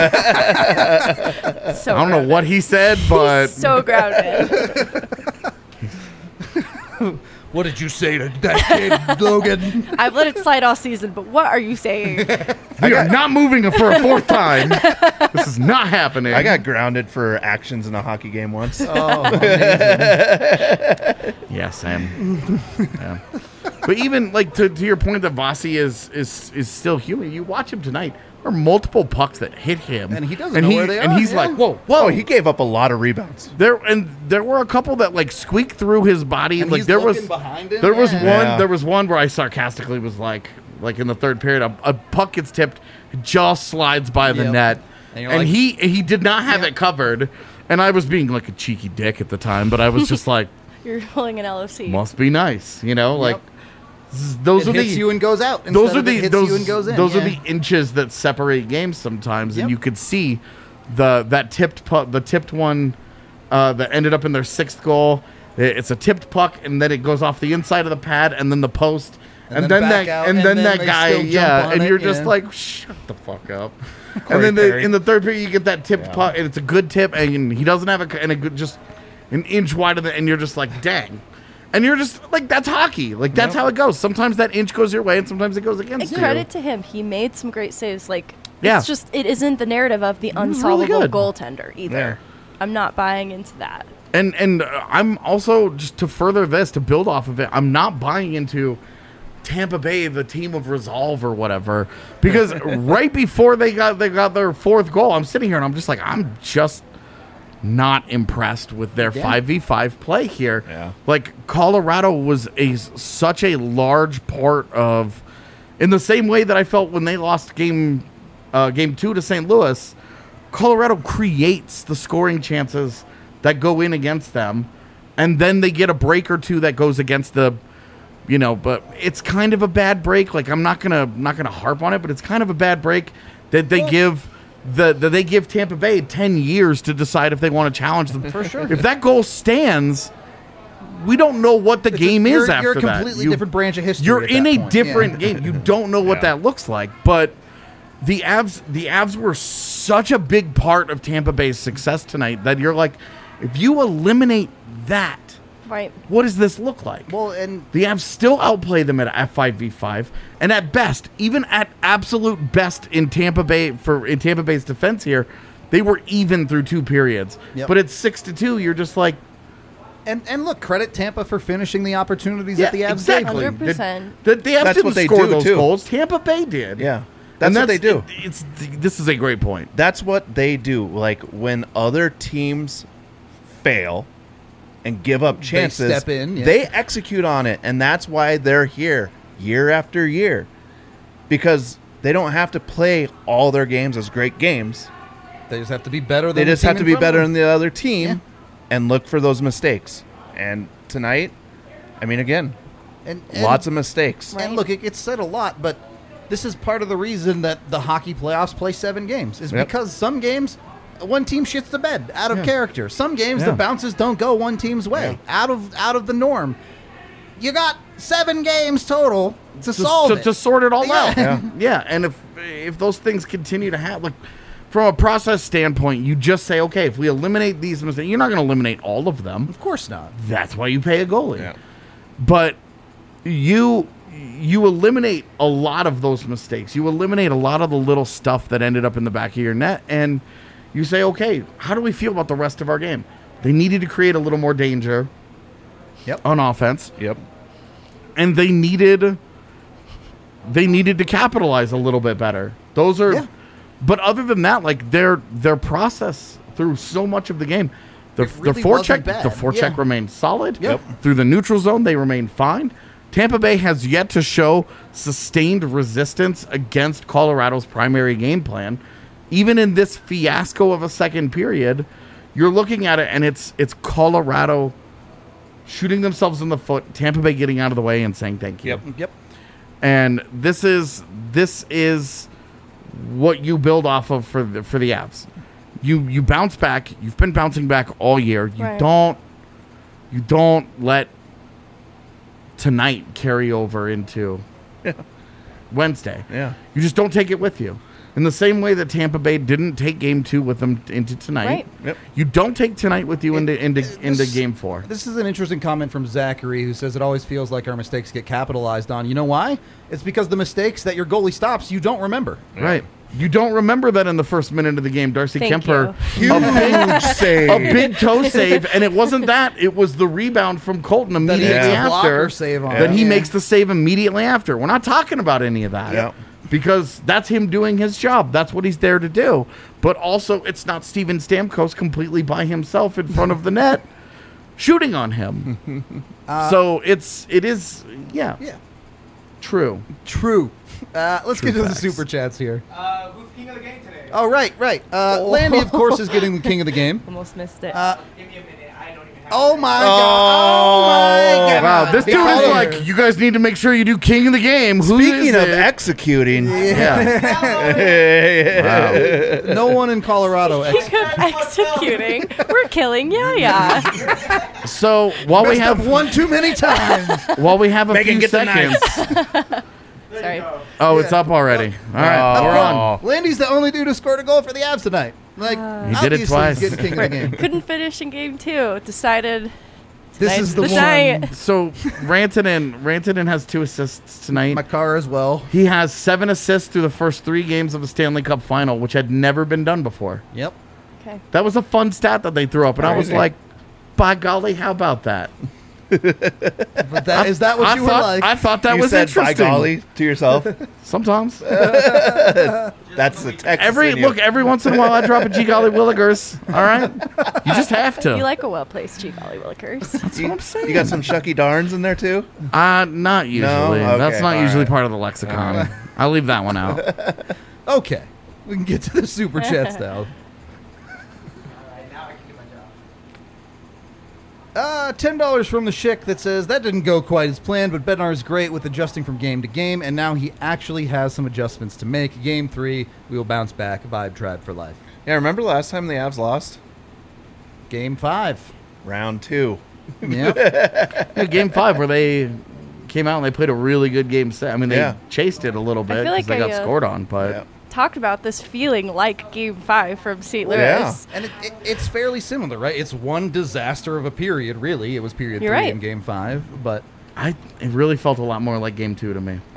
So I don't know what he said, but so grounded. What did you say to that kid, Logan? I've let it slide all season, but what are you saying? We are not moving it for a fourth time. This is not happening. I got grounded for actions in a hockey game once. Oh, amazing. Yeah, Sam. Yeah. But even like to your point that Vasi is still human. You watch him tonight. There are multiple pucks that hit him, And he doesn't know where they and are, he's yeah. like, "Whoa, Oh, whoa!" he gave up a lot of rebounds. There were a couple that like squeaked through his body. And Like he's there was looking behind him, there was yeah. one Yeah. there was one where I sarcastically was like in the third period, a puck gets tipped, just slides by the Yep. net, And you're and like- he did not have Yeah. it covered. And I was being like a cheeky dick at the time, but I was just like, You're pulling an LFC. must be nice, you know, like. Yep. Those It are hits the you and goes out. those instead are of it the hits those you and goes in. those are yeah. the inches that separate games sometimes, and Yep. you could see that tipped puck, the tipped one that ended up in their sixth goal. It's a tipped puck, and then it goes off the inside of the pad, and then the post, And and then then back that out, and and then then that they guy, still jump yeah, on and it, you're just yeah. like, shut the fuck up. Corey And then Perry. in the third period, you get that tipped puck, and it's a good tip, and he doesn't have a good just an inch wider than, and you're just like, dang. And you're just like, that's hockey. Like, that's how it goes. Sometimes that inch goes your way, and sometimes it goes And against you. credit to him, he made some great saves. Like, Yeah. it's just, it isn't the narrative of the was really unsolvable good. goaltender either. Yeah. I'm not buying into that. And I'm also, just to further this, to build off of it, I'm not buying into Tampa Bay, the team of resolve or whatever, because right before they got their fourth goal, I'm sitting here and I'm just like, I'm just not impressed with their 5v5 play here. Yeah. Like, Colorado was such a large part of, in the same way that I felt when they lost game 2 to St. Louis, Colorado creates the scoring chances that go in against them, and then they get a break or two that goes against the, but it's kind of a bad break. Like, I'm not gonna harp on it, but it's kind of a bad break that they give they give Tampa Bay 10 years to decide if they want to challenge them. For sure. If that goal stands, we don't know what the game is after You're a that. completely different branch of history. You're at in that a point. different Yeah. game. You don't know what Yeah. that looks like. But the Avs were such a big part of Tampa Bay's success tonight that you're like, if you eliminate that, Right. what does this look like? Well, and The Avs still outplay them at F5v5, and at best, even at absolute best in Tampa Bay's defense here, they were even through 2 periods. Yep. But it's 6-2. You're just like, and look, credit Tampa for finishing the opportunities that the Avs exactly. gave them. 100%. The Avs That's didn't what they score do, those too. goals. Tampa Bay did. Yeah. And That's what they do. This is a great point. That's what they do. Like, when other teams fail and give up chances, step in, yeah. they execute on it, and that's why they're here year after year, because they don't have to play all their games as great games. They just have to be better. They Than just the team have to in be front of better them. than the other team Yeah. and look for those mistakes. And tonight, I mean, again, And lots of mistakes. Right. And look, it gets said a lot, but this is part of the reason that the hockey playoffs play 7 games is Yep. because some games one team shits the bed out of character. Some games Yeah. the bounces don't go one team's way out of the norm. You got 7 games total to solve it. To sort it all Yeah. out. Yeah. Yeah, and if those things continue to happen, like from a process standpoint, you just say, okay, if we eliminate these mistakes, you're not going to eliminate all of them. Of course not. That's why you pay a goalie. Yeah. But you eliminate a lot of those mistakes. You eliminate a lot of the little stuff that ended up in the back of your net, and you say, okay, how do we feel about the rest of our game? They needed to create a little more danger Yep. on offense, Yep. and they needed to capitalize a little bit better. Those are, Yeah. but other than that, like their process through so much of the game, the really forecheck wasn't bad. the forecheck Yeah. remained solid. Yep. Through the neutral zone, they remained fine. Tampa Bay has yet to show sustained resistance against Colorado's primary game plan. Even in this fiasco of a second period, you're looking at it and it's Colorado shooting themselves in the foot, Tampa Bay getting out of the way and saying thank you. Yep. And this is what you build off of for the Avs. You bounce back. You've been bouncing back all year. You Right. don't let tonight carry over into Wednesday. Yeah. You just don't take it with you. In the same way that Tampa Bay didn't take Game 2 with them into tonight, Right. Yep. you don't take tonight with you into Game 4. This is an interesting comment from Zachary, who says it always feels like our mistakes get capitalized on. You know why? It's because the mistakes that your goalie stops, you don't remember. Right. You don't remember that in the first minute of the game, Darcy Thank Kemper, Huge save. a big toe save, and it wasn't that. It was the rebound from Colton immediately makes the after blocker save on that it. he Yeah. makes the save immediately after. We're not talking about any of that. Yeah. Because that's him doing his job. That's what he's there to do. But also, it's not Steven Stamkos completely by himself in front of the net shooting on him. So it is, yeah, true. True. Let's get to facts. the super chats here. Who's king of the game today? Oh, right. Landy, of course, is getting the king of the game. Almost missed it. Give me a minute. I don't even have Oh it. my god! Oh my god! Wow, this dude Called is her. like, you guys need to make sure you do king of the game. Who Speaking is of it? executing, Yeah. Wow. No one in Colorado. Executing. We're killing Yaya. So while we Messed up have one too many times. a Megan, few get the seconds. Sorry. Oh, it's up already. All right, we're on. Landy's the only dude who scored a goal for the Avs tonight. Like, He did it obviously twice. He's getting king of the game. Couldn't finish in game 2. Decided. This is the tonight's one. night. So Rantanen has 2 assists tonight. Makar as well. He has 7 assists through the first 3 games of the Stanley Cup Final, which had never been done before. Yep. Okay. That was a fun stat that they threw up, and I was Crazy. like, by golly, how about that? But is that what you were like? I thought that you was said interesting. by golly to yourself. Sometimes. That's the Texas in you. Every once in a while I drop a G golly Willigers. All right? You just have to. You like a well-placed G Golly Willikers. That's what I'm saying. You got some Shucky Darns in there too? Not usually. Okay, That's not all usually right. part of the lexicon. I'll leave that one out. Okay. We can get to the super chats now. All right, now I can do my job. $10 from the Schick that says, that didn't go quite as planned, but Bednar is great with adjusting from game to game, and now he actually has some adjustments to make. Game 3, we will bounce back. Vibe Tribe for life. Yeah, remember last time the Avs lost? Game 5. Round 2. Yep. Yeah, game 5 where they came out and they played a really good game set. I mean, they Yeah. chased it a little bit feel because like they got I, scored on, but Yeah. Talked about this feeling like game 5 from St. Louis. Yeah. And it's fairly similar, right? It's one disaster of a period, really. It was period You're 3 right. in Game 5, but it really felt a lot more like game 2 to me.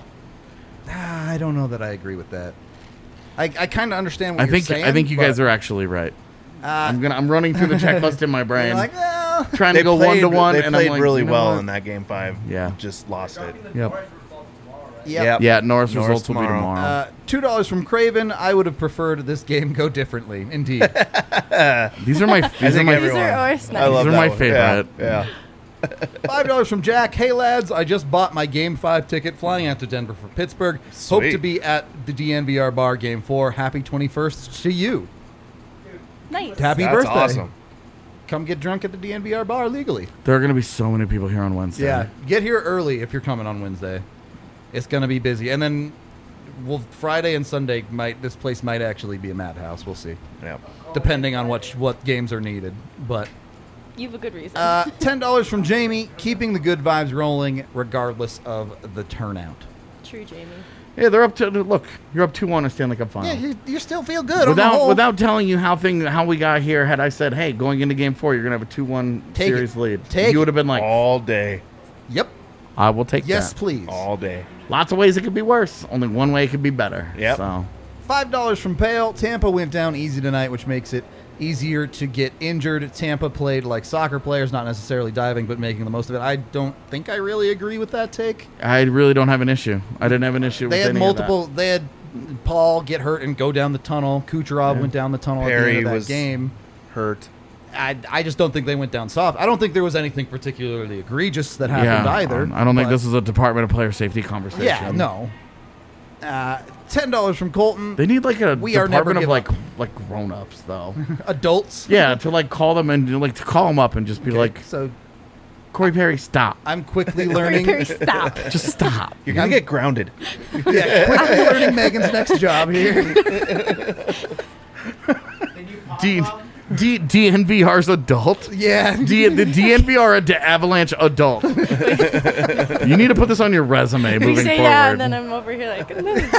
I don't know that I agree with that. I kind of understand what you're saying. I think you but, guys are actually right. Uh, I'm running through the checklist in my brain, you're like, well, trying to go played- 1-1, They and played I'm like, really you know well what? in that game 5. Yeah. Just lost it. Yep. yep. Yeah, Norris Norris results will be tomorrow. tomorrow. $2 from Craven. I would have preferred this game go differently. Indeed. These are my think these are my, everyone- These are always I nice. love are that my one. favorite. Yeah. $5 from Jack. Hey, lads, I just bought my Game 5 ticket flying out to Denver from Pittsburgh. Hope Sweet. to be at the DNVR bar Game 4. Happy 21st to you. Nice. Happy That's birthday. awesome. Come get drunk at the DNVR bar legally. There are going to be so many people here on Wednesday. Yeah. Get here early if you're coming on Wednesday. It's going to be busy. And then Friday and Sunday, this place might actually be a madhouse. We'll see. Yeah. Depending on what games are needed. But You have a good reason. $10 from Jamie, keeping the good vibes rolling regardless of the turnout. True, Jamie. Yeah, they're up to look. You're up 2-1 in Stanley Cup Final. Yeah, you still feel good on the whole. Without telling you how we got here, had I said, hey, going into game 4, you're gonna have a 2-1 Take series it. lead, Take you would have been like, All day. Yep. I will take Yes, that. please. All day. Lots of ways it could be worse. Only one way it could be better. Yep. So $5 from Pale. Tampa went down easy tonight, which makes it easier to get injured. Tampa played like soccer players, not necessarily diving, but making the most of it. I don't think I really agree with that take. I really don't have an issue. I didn't have an issue They with had any multiple. of that. They had Paul get hurt and go down the tunnel. Kucherov went down the tunnel at the Perry end of that was game. hurt. I just don't think they went down soft. I don't think there was anything particularly egregious that happened either. I don't think but- this is a Department of Player Safety conversation. Yeah, no. $10 from Colton. They need like a We are never department of give like grown-ups though. Adults. Yeah, to like call them and like to call them up and just be like, So Corey Perry, stop. I'm quickly learning. Perry, stop. Just stop. You're going to get grounded. Yeah, quickly learning Megan's next job here. Can you pop Dean, up? DNVR's adult. Yeah. The DNVR Avalanche adult. You need to put this on your resume We moving say forward. yeah, and then I'm over here like.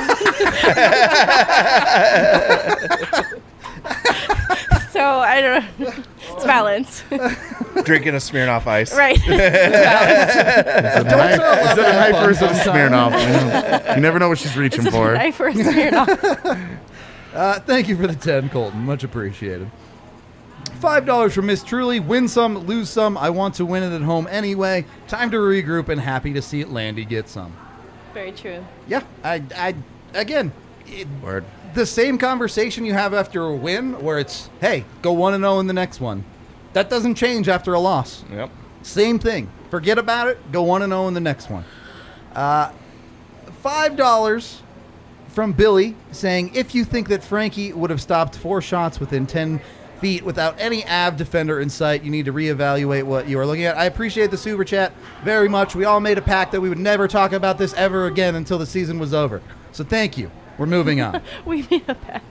So I don't know. It's balance, Drinking a Smirnoff Ice. right? It's balance. Is it a knife or is it a Smirnoff? You never know what she's reaching for. Knife or a Smirnoff. Thank you for the 10, Colton. Much appreciated. $5 from Miss Truly. Win some, lose some. I want to win it at home anyway. Time to regroup and happy to see Landy get some. Very true. Yeah, again, Word. the same conversation you have after a win where it's, hey, go 1-0 in the next one. That doesn't change after a loss. Yep. Same thing. Forget about it. Go 1-0 in the next one. $5 from Billy saying, if you think that Frankie would have stopped 4 shots within 10 feet without any Av defender in sight, you need to reevaluate what you are looking at. I appreciate the super chat very much. We all made a pact that we would never talk about this ever again until the season was over. So thank you. We're moving on. We made a pact.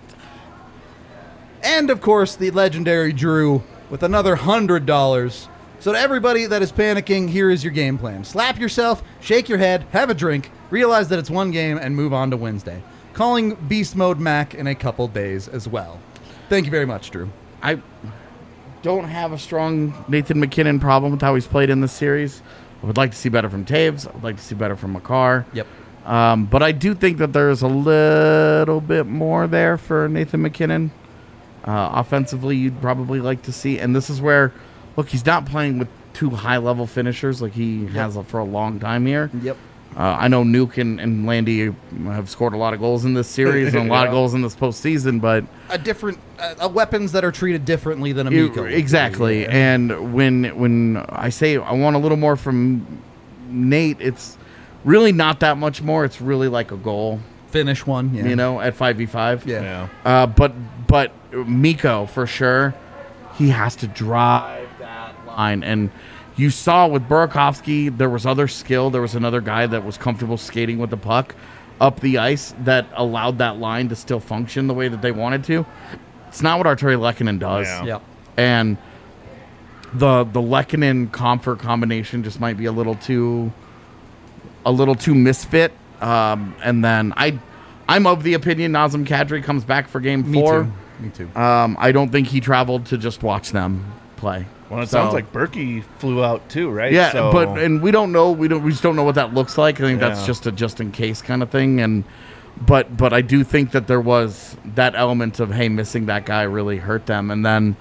And, of course, the legendary Drew with another $100. So to everybody that is panicking, here is your game plan. Slap yourself, shake your head, have a drink, realize that it's one game, and move on to Wednesday. Calling Beast Mode Mac in a couple days as well. Thank you very much, Drew. I don't have a strong Nathan McKinnon problem with how he's played in this series. I would like to see better from Taves. I would like to see better from Makar. Yep. But I do think that there's a little bit more there for Nathan McKinnon. Offensively, you'd probably like to see. And this is where, look, he's not playing with 2 high-level finishers like he has for a long time here. Yep. I know Nuke and Landy have scored a lot of goals in this series and a lot of goals in this postseason, but Weapons that are treated differently than Amico. Exactly. Yeah. And when I say I want a little more from Nate, it's really not that much more. It's really like a goal, Finish one, yeah. you know, at 5v5. Yeah. But Miko, for sure, he has to drive that line. And you saw with Burakovsky, there was other skill. There was another guy that was comfortable skating with the puck up the ice that allowed that line to still function the way that they wanted to. It's not what Arturi Lehkonen does. Yeah. Yep. And the Lehkonen Comfort combination just might be a little too misfit. And then I'm of the opinion Nazem Kadri comes back for game 4. Me too. I don't think he traveled to just watch them play. Well, it So- sounds like Berkey flew out too, right? Yeah, So, and we don't know. We just don't know what that looks like. I think that's Yeah. just a just in case kind of thing. And but I do think that there was that element of, hey, missing that guy really hurt them. And then,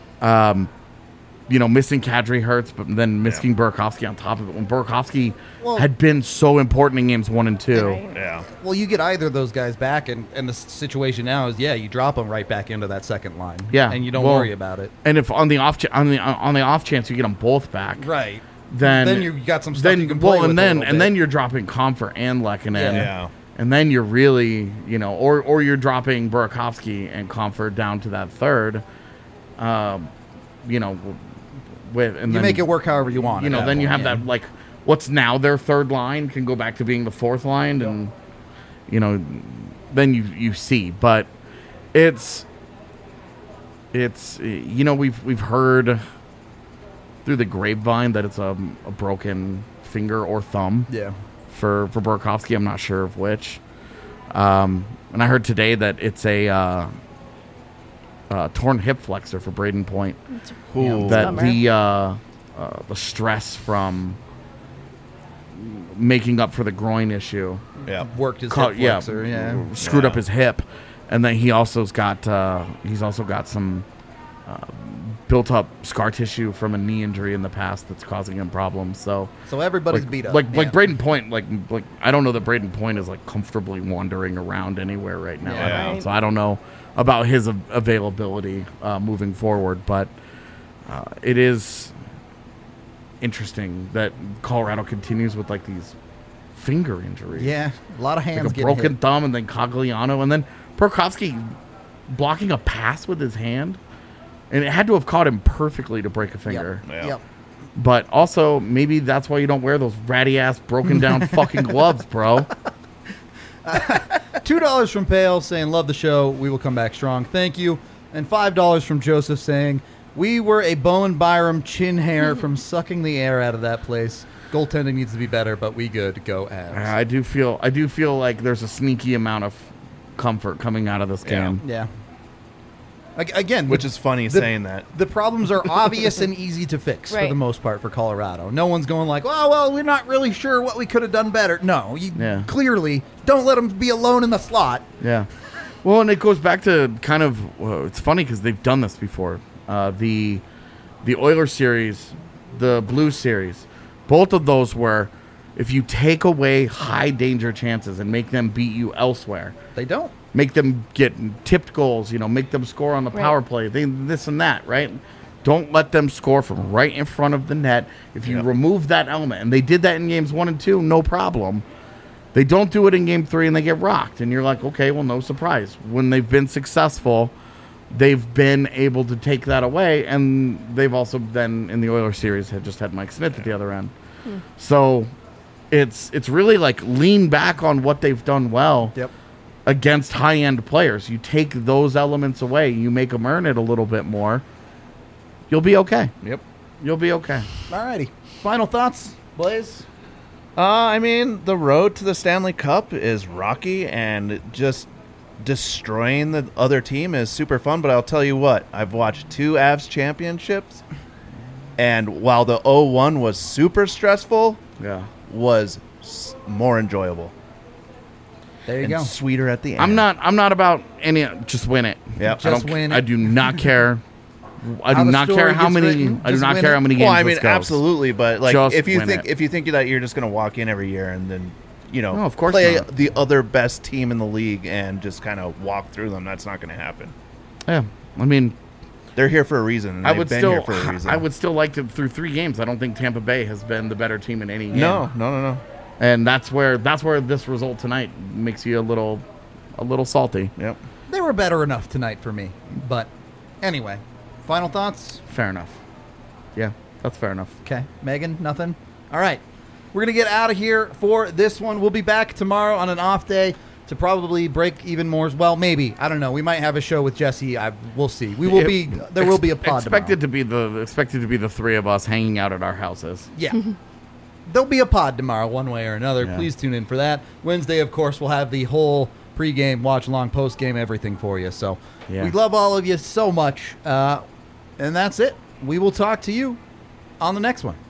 missing Kadri hurts, but then missing Burakovsky on top of it. When Burakovsky had been so important in games 1 and 2. Right. yeah. Well, you get either of those guys back, and the situation now is, you drop them right back into that second line. Yeah, And you don't well, worry about it. And if on the off chance you get them both back, Right. then you got some stuff you can play with and a then little bit. you're dropping Comfort and Lehkonen. Yeah. And then you're really, or you're dropping Burakovsky and Comfort down to that third, and You make it work however you want. at that then you point, have that, like, what's now their third line can go back to being the fourth line, and, then you see. But it's we've heard through the grapevine that it's a broken finger or thumb. Yeah. For Burakovsky, I'm not sure of which. And I heard today that it's a torn hip flexor for Braden Point. Ooh. That Bummer. the stress from making up for the groin issue Yeah. Worked his hip flexor, yeah. screwed Yeah. up his hip, and then he's also got some built up scar tissue from a knee injury in the past that's causing him problems. So Everybody's like, beat up. like Braden Point, like I don't know that Braden Point is like comfortably wandering around anywhere right now. Yeah. Right. So I don't know about his availability moving forward, but it is interesting that Colorado continues with like these finger injuries. Yeah, a lot of hands Like a getting broken hit. thumb, and then Cogliano, and then Burakovsky blocking a pass with his hand, and it had to have caught him perfectly to break a finger. Yep. Yeah. Yep. But also, maybe that's why you don't wear those ratty ass broken down fucking gloves, bro. $2 from Pale saying, love the show. We will come back strong. Thank you. And $5 from Joseph saying, we were a Bowen Byram chin hair from sucking the air out of that place. Goaltending needs to be better, but we good. Go Avs. I do feel like there's a sneaky amount of comfort coming out of this game. Yeah. Again, Which is funny saying that. The problems are obvious and easy to fix for Right. the most part for Colorado. No one's going like, oh, well, we're not really sure what we could have done better. No, you clearly don't let them be alone in the slot. Yeah. Well, and it goes back to kind of it's funny because they've done this before. The Oilers series, the Blues series, both of those were if you take away high danger chances and make them beat you elsewhere. They don't. Make them get tipped goals, make them score on the power play, this and that, right? Don't let them score from right in front of the net. If you remove that element, and they did that in games 1 and 2, no problem. They don't do it in game 3 and they get rocked. And you're like, okay, well, no surprise. When they've been successful, they've been able to take that away. And they've also then, in the Oilers series, had just had Mike Smith at the other end. So it's really like lean back on what they've done well. Yep. Against high-end players. You take those elements away, you make them earn it a little bit more, you'll be okay. Yep. You'll be okay. Alrighty. Final thoughts, Blaze? I mean, the road to the Stanley Cup is rocky, and just destroying the other team is super fun. But I'll tell you what, I've watched 2 Avs championships, and while the 0-1 was super stressful, was more enjoyable. There you and go. Sweeter at the end. I'm not about any. Just win it. Yeah. Just win it. I do not care. I How do the not care story how gets many. written, I do just not win care it. how many games. Well, I mean, this goes. absolutely, but like Just if you win think it. if you think that you're just going to walk in every year and then No, of course play not. the other best team in the league and just kind of walk through them, that's not going to happen. Yeah, I mean, They're here for a reason. And I they've would been still. here for a reason. I would still like to through 3 games. I don't think Tampa Bay has been the better team in any game. No. And that's where this result tonight makes you a little salty. Yep. They were better enough tonight for me. But anyway, final thoughts? Fair enough. Yeah, that's fair enough. Okay. Megan, nothing? All right. We're going to get out of here for this one. We'll be back tomorrow on an off day to probably break even more. Well, maybe. I don't know. We might have a show with Jesse. We'll see. There will be a pod expected tomorrow. to be the 3 of us hanging out at our houses. Yeah. There'll be a pod tomorrow one way or another. Yeah. Please tune in for that. Wednesday, of course, we'll have the whole pregame, watch along, postgame, everything for you. So we love all of you so much. And that's it. We will talk to you on the next one.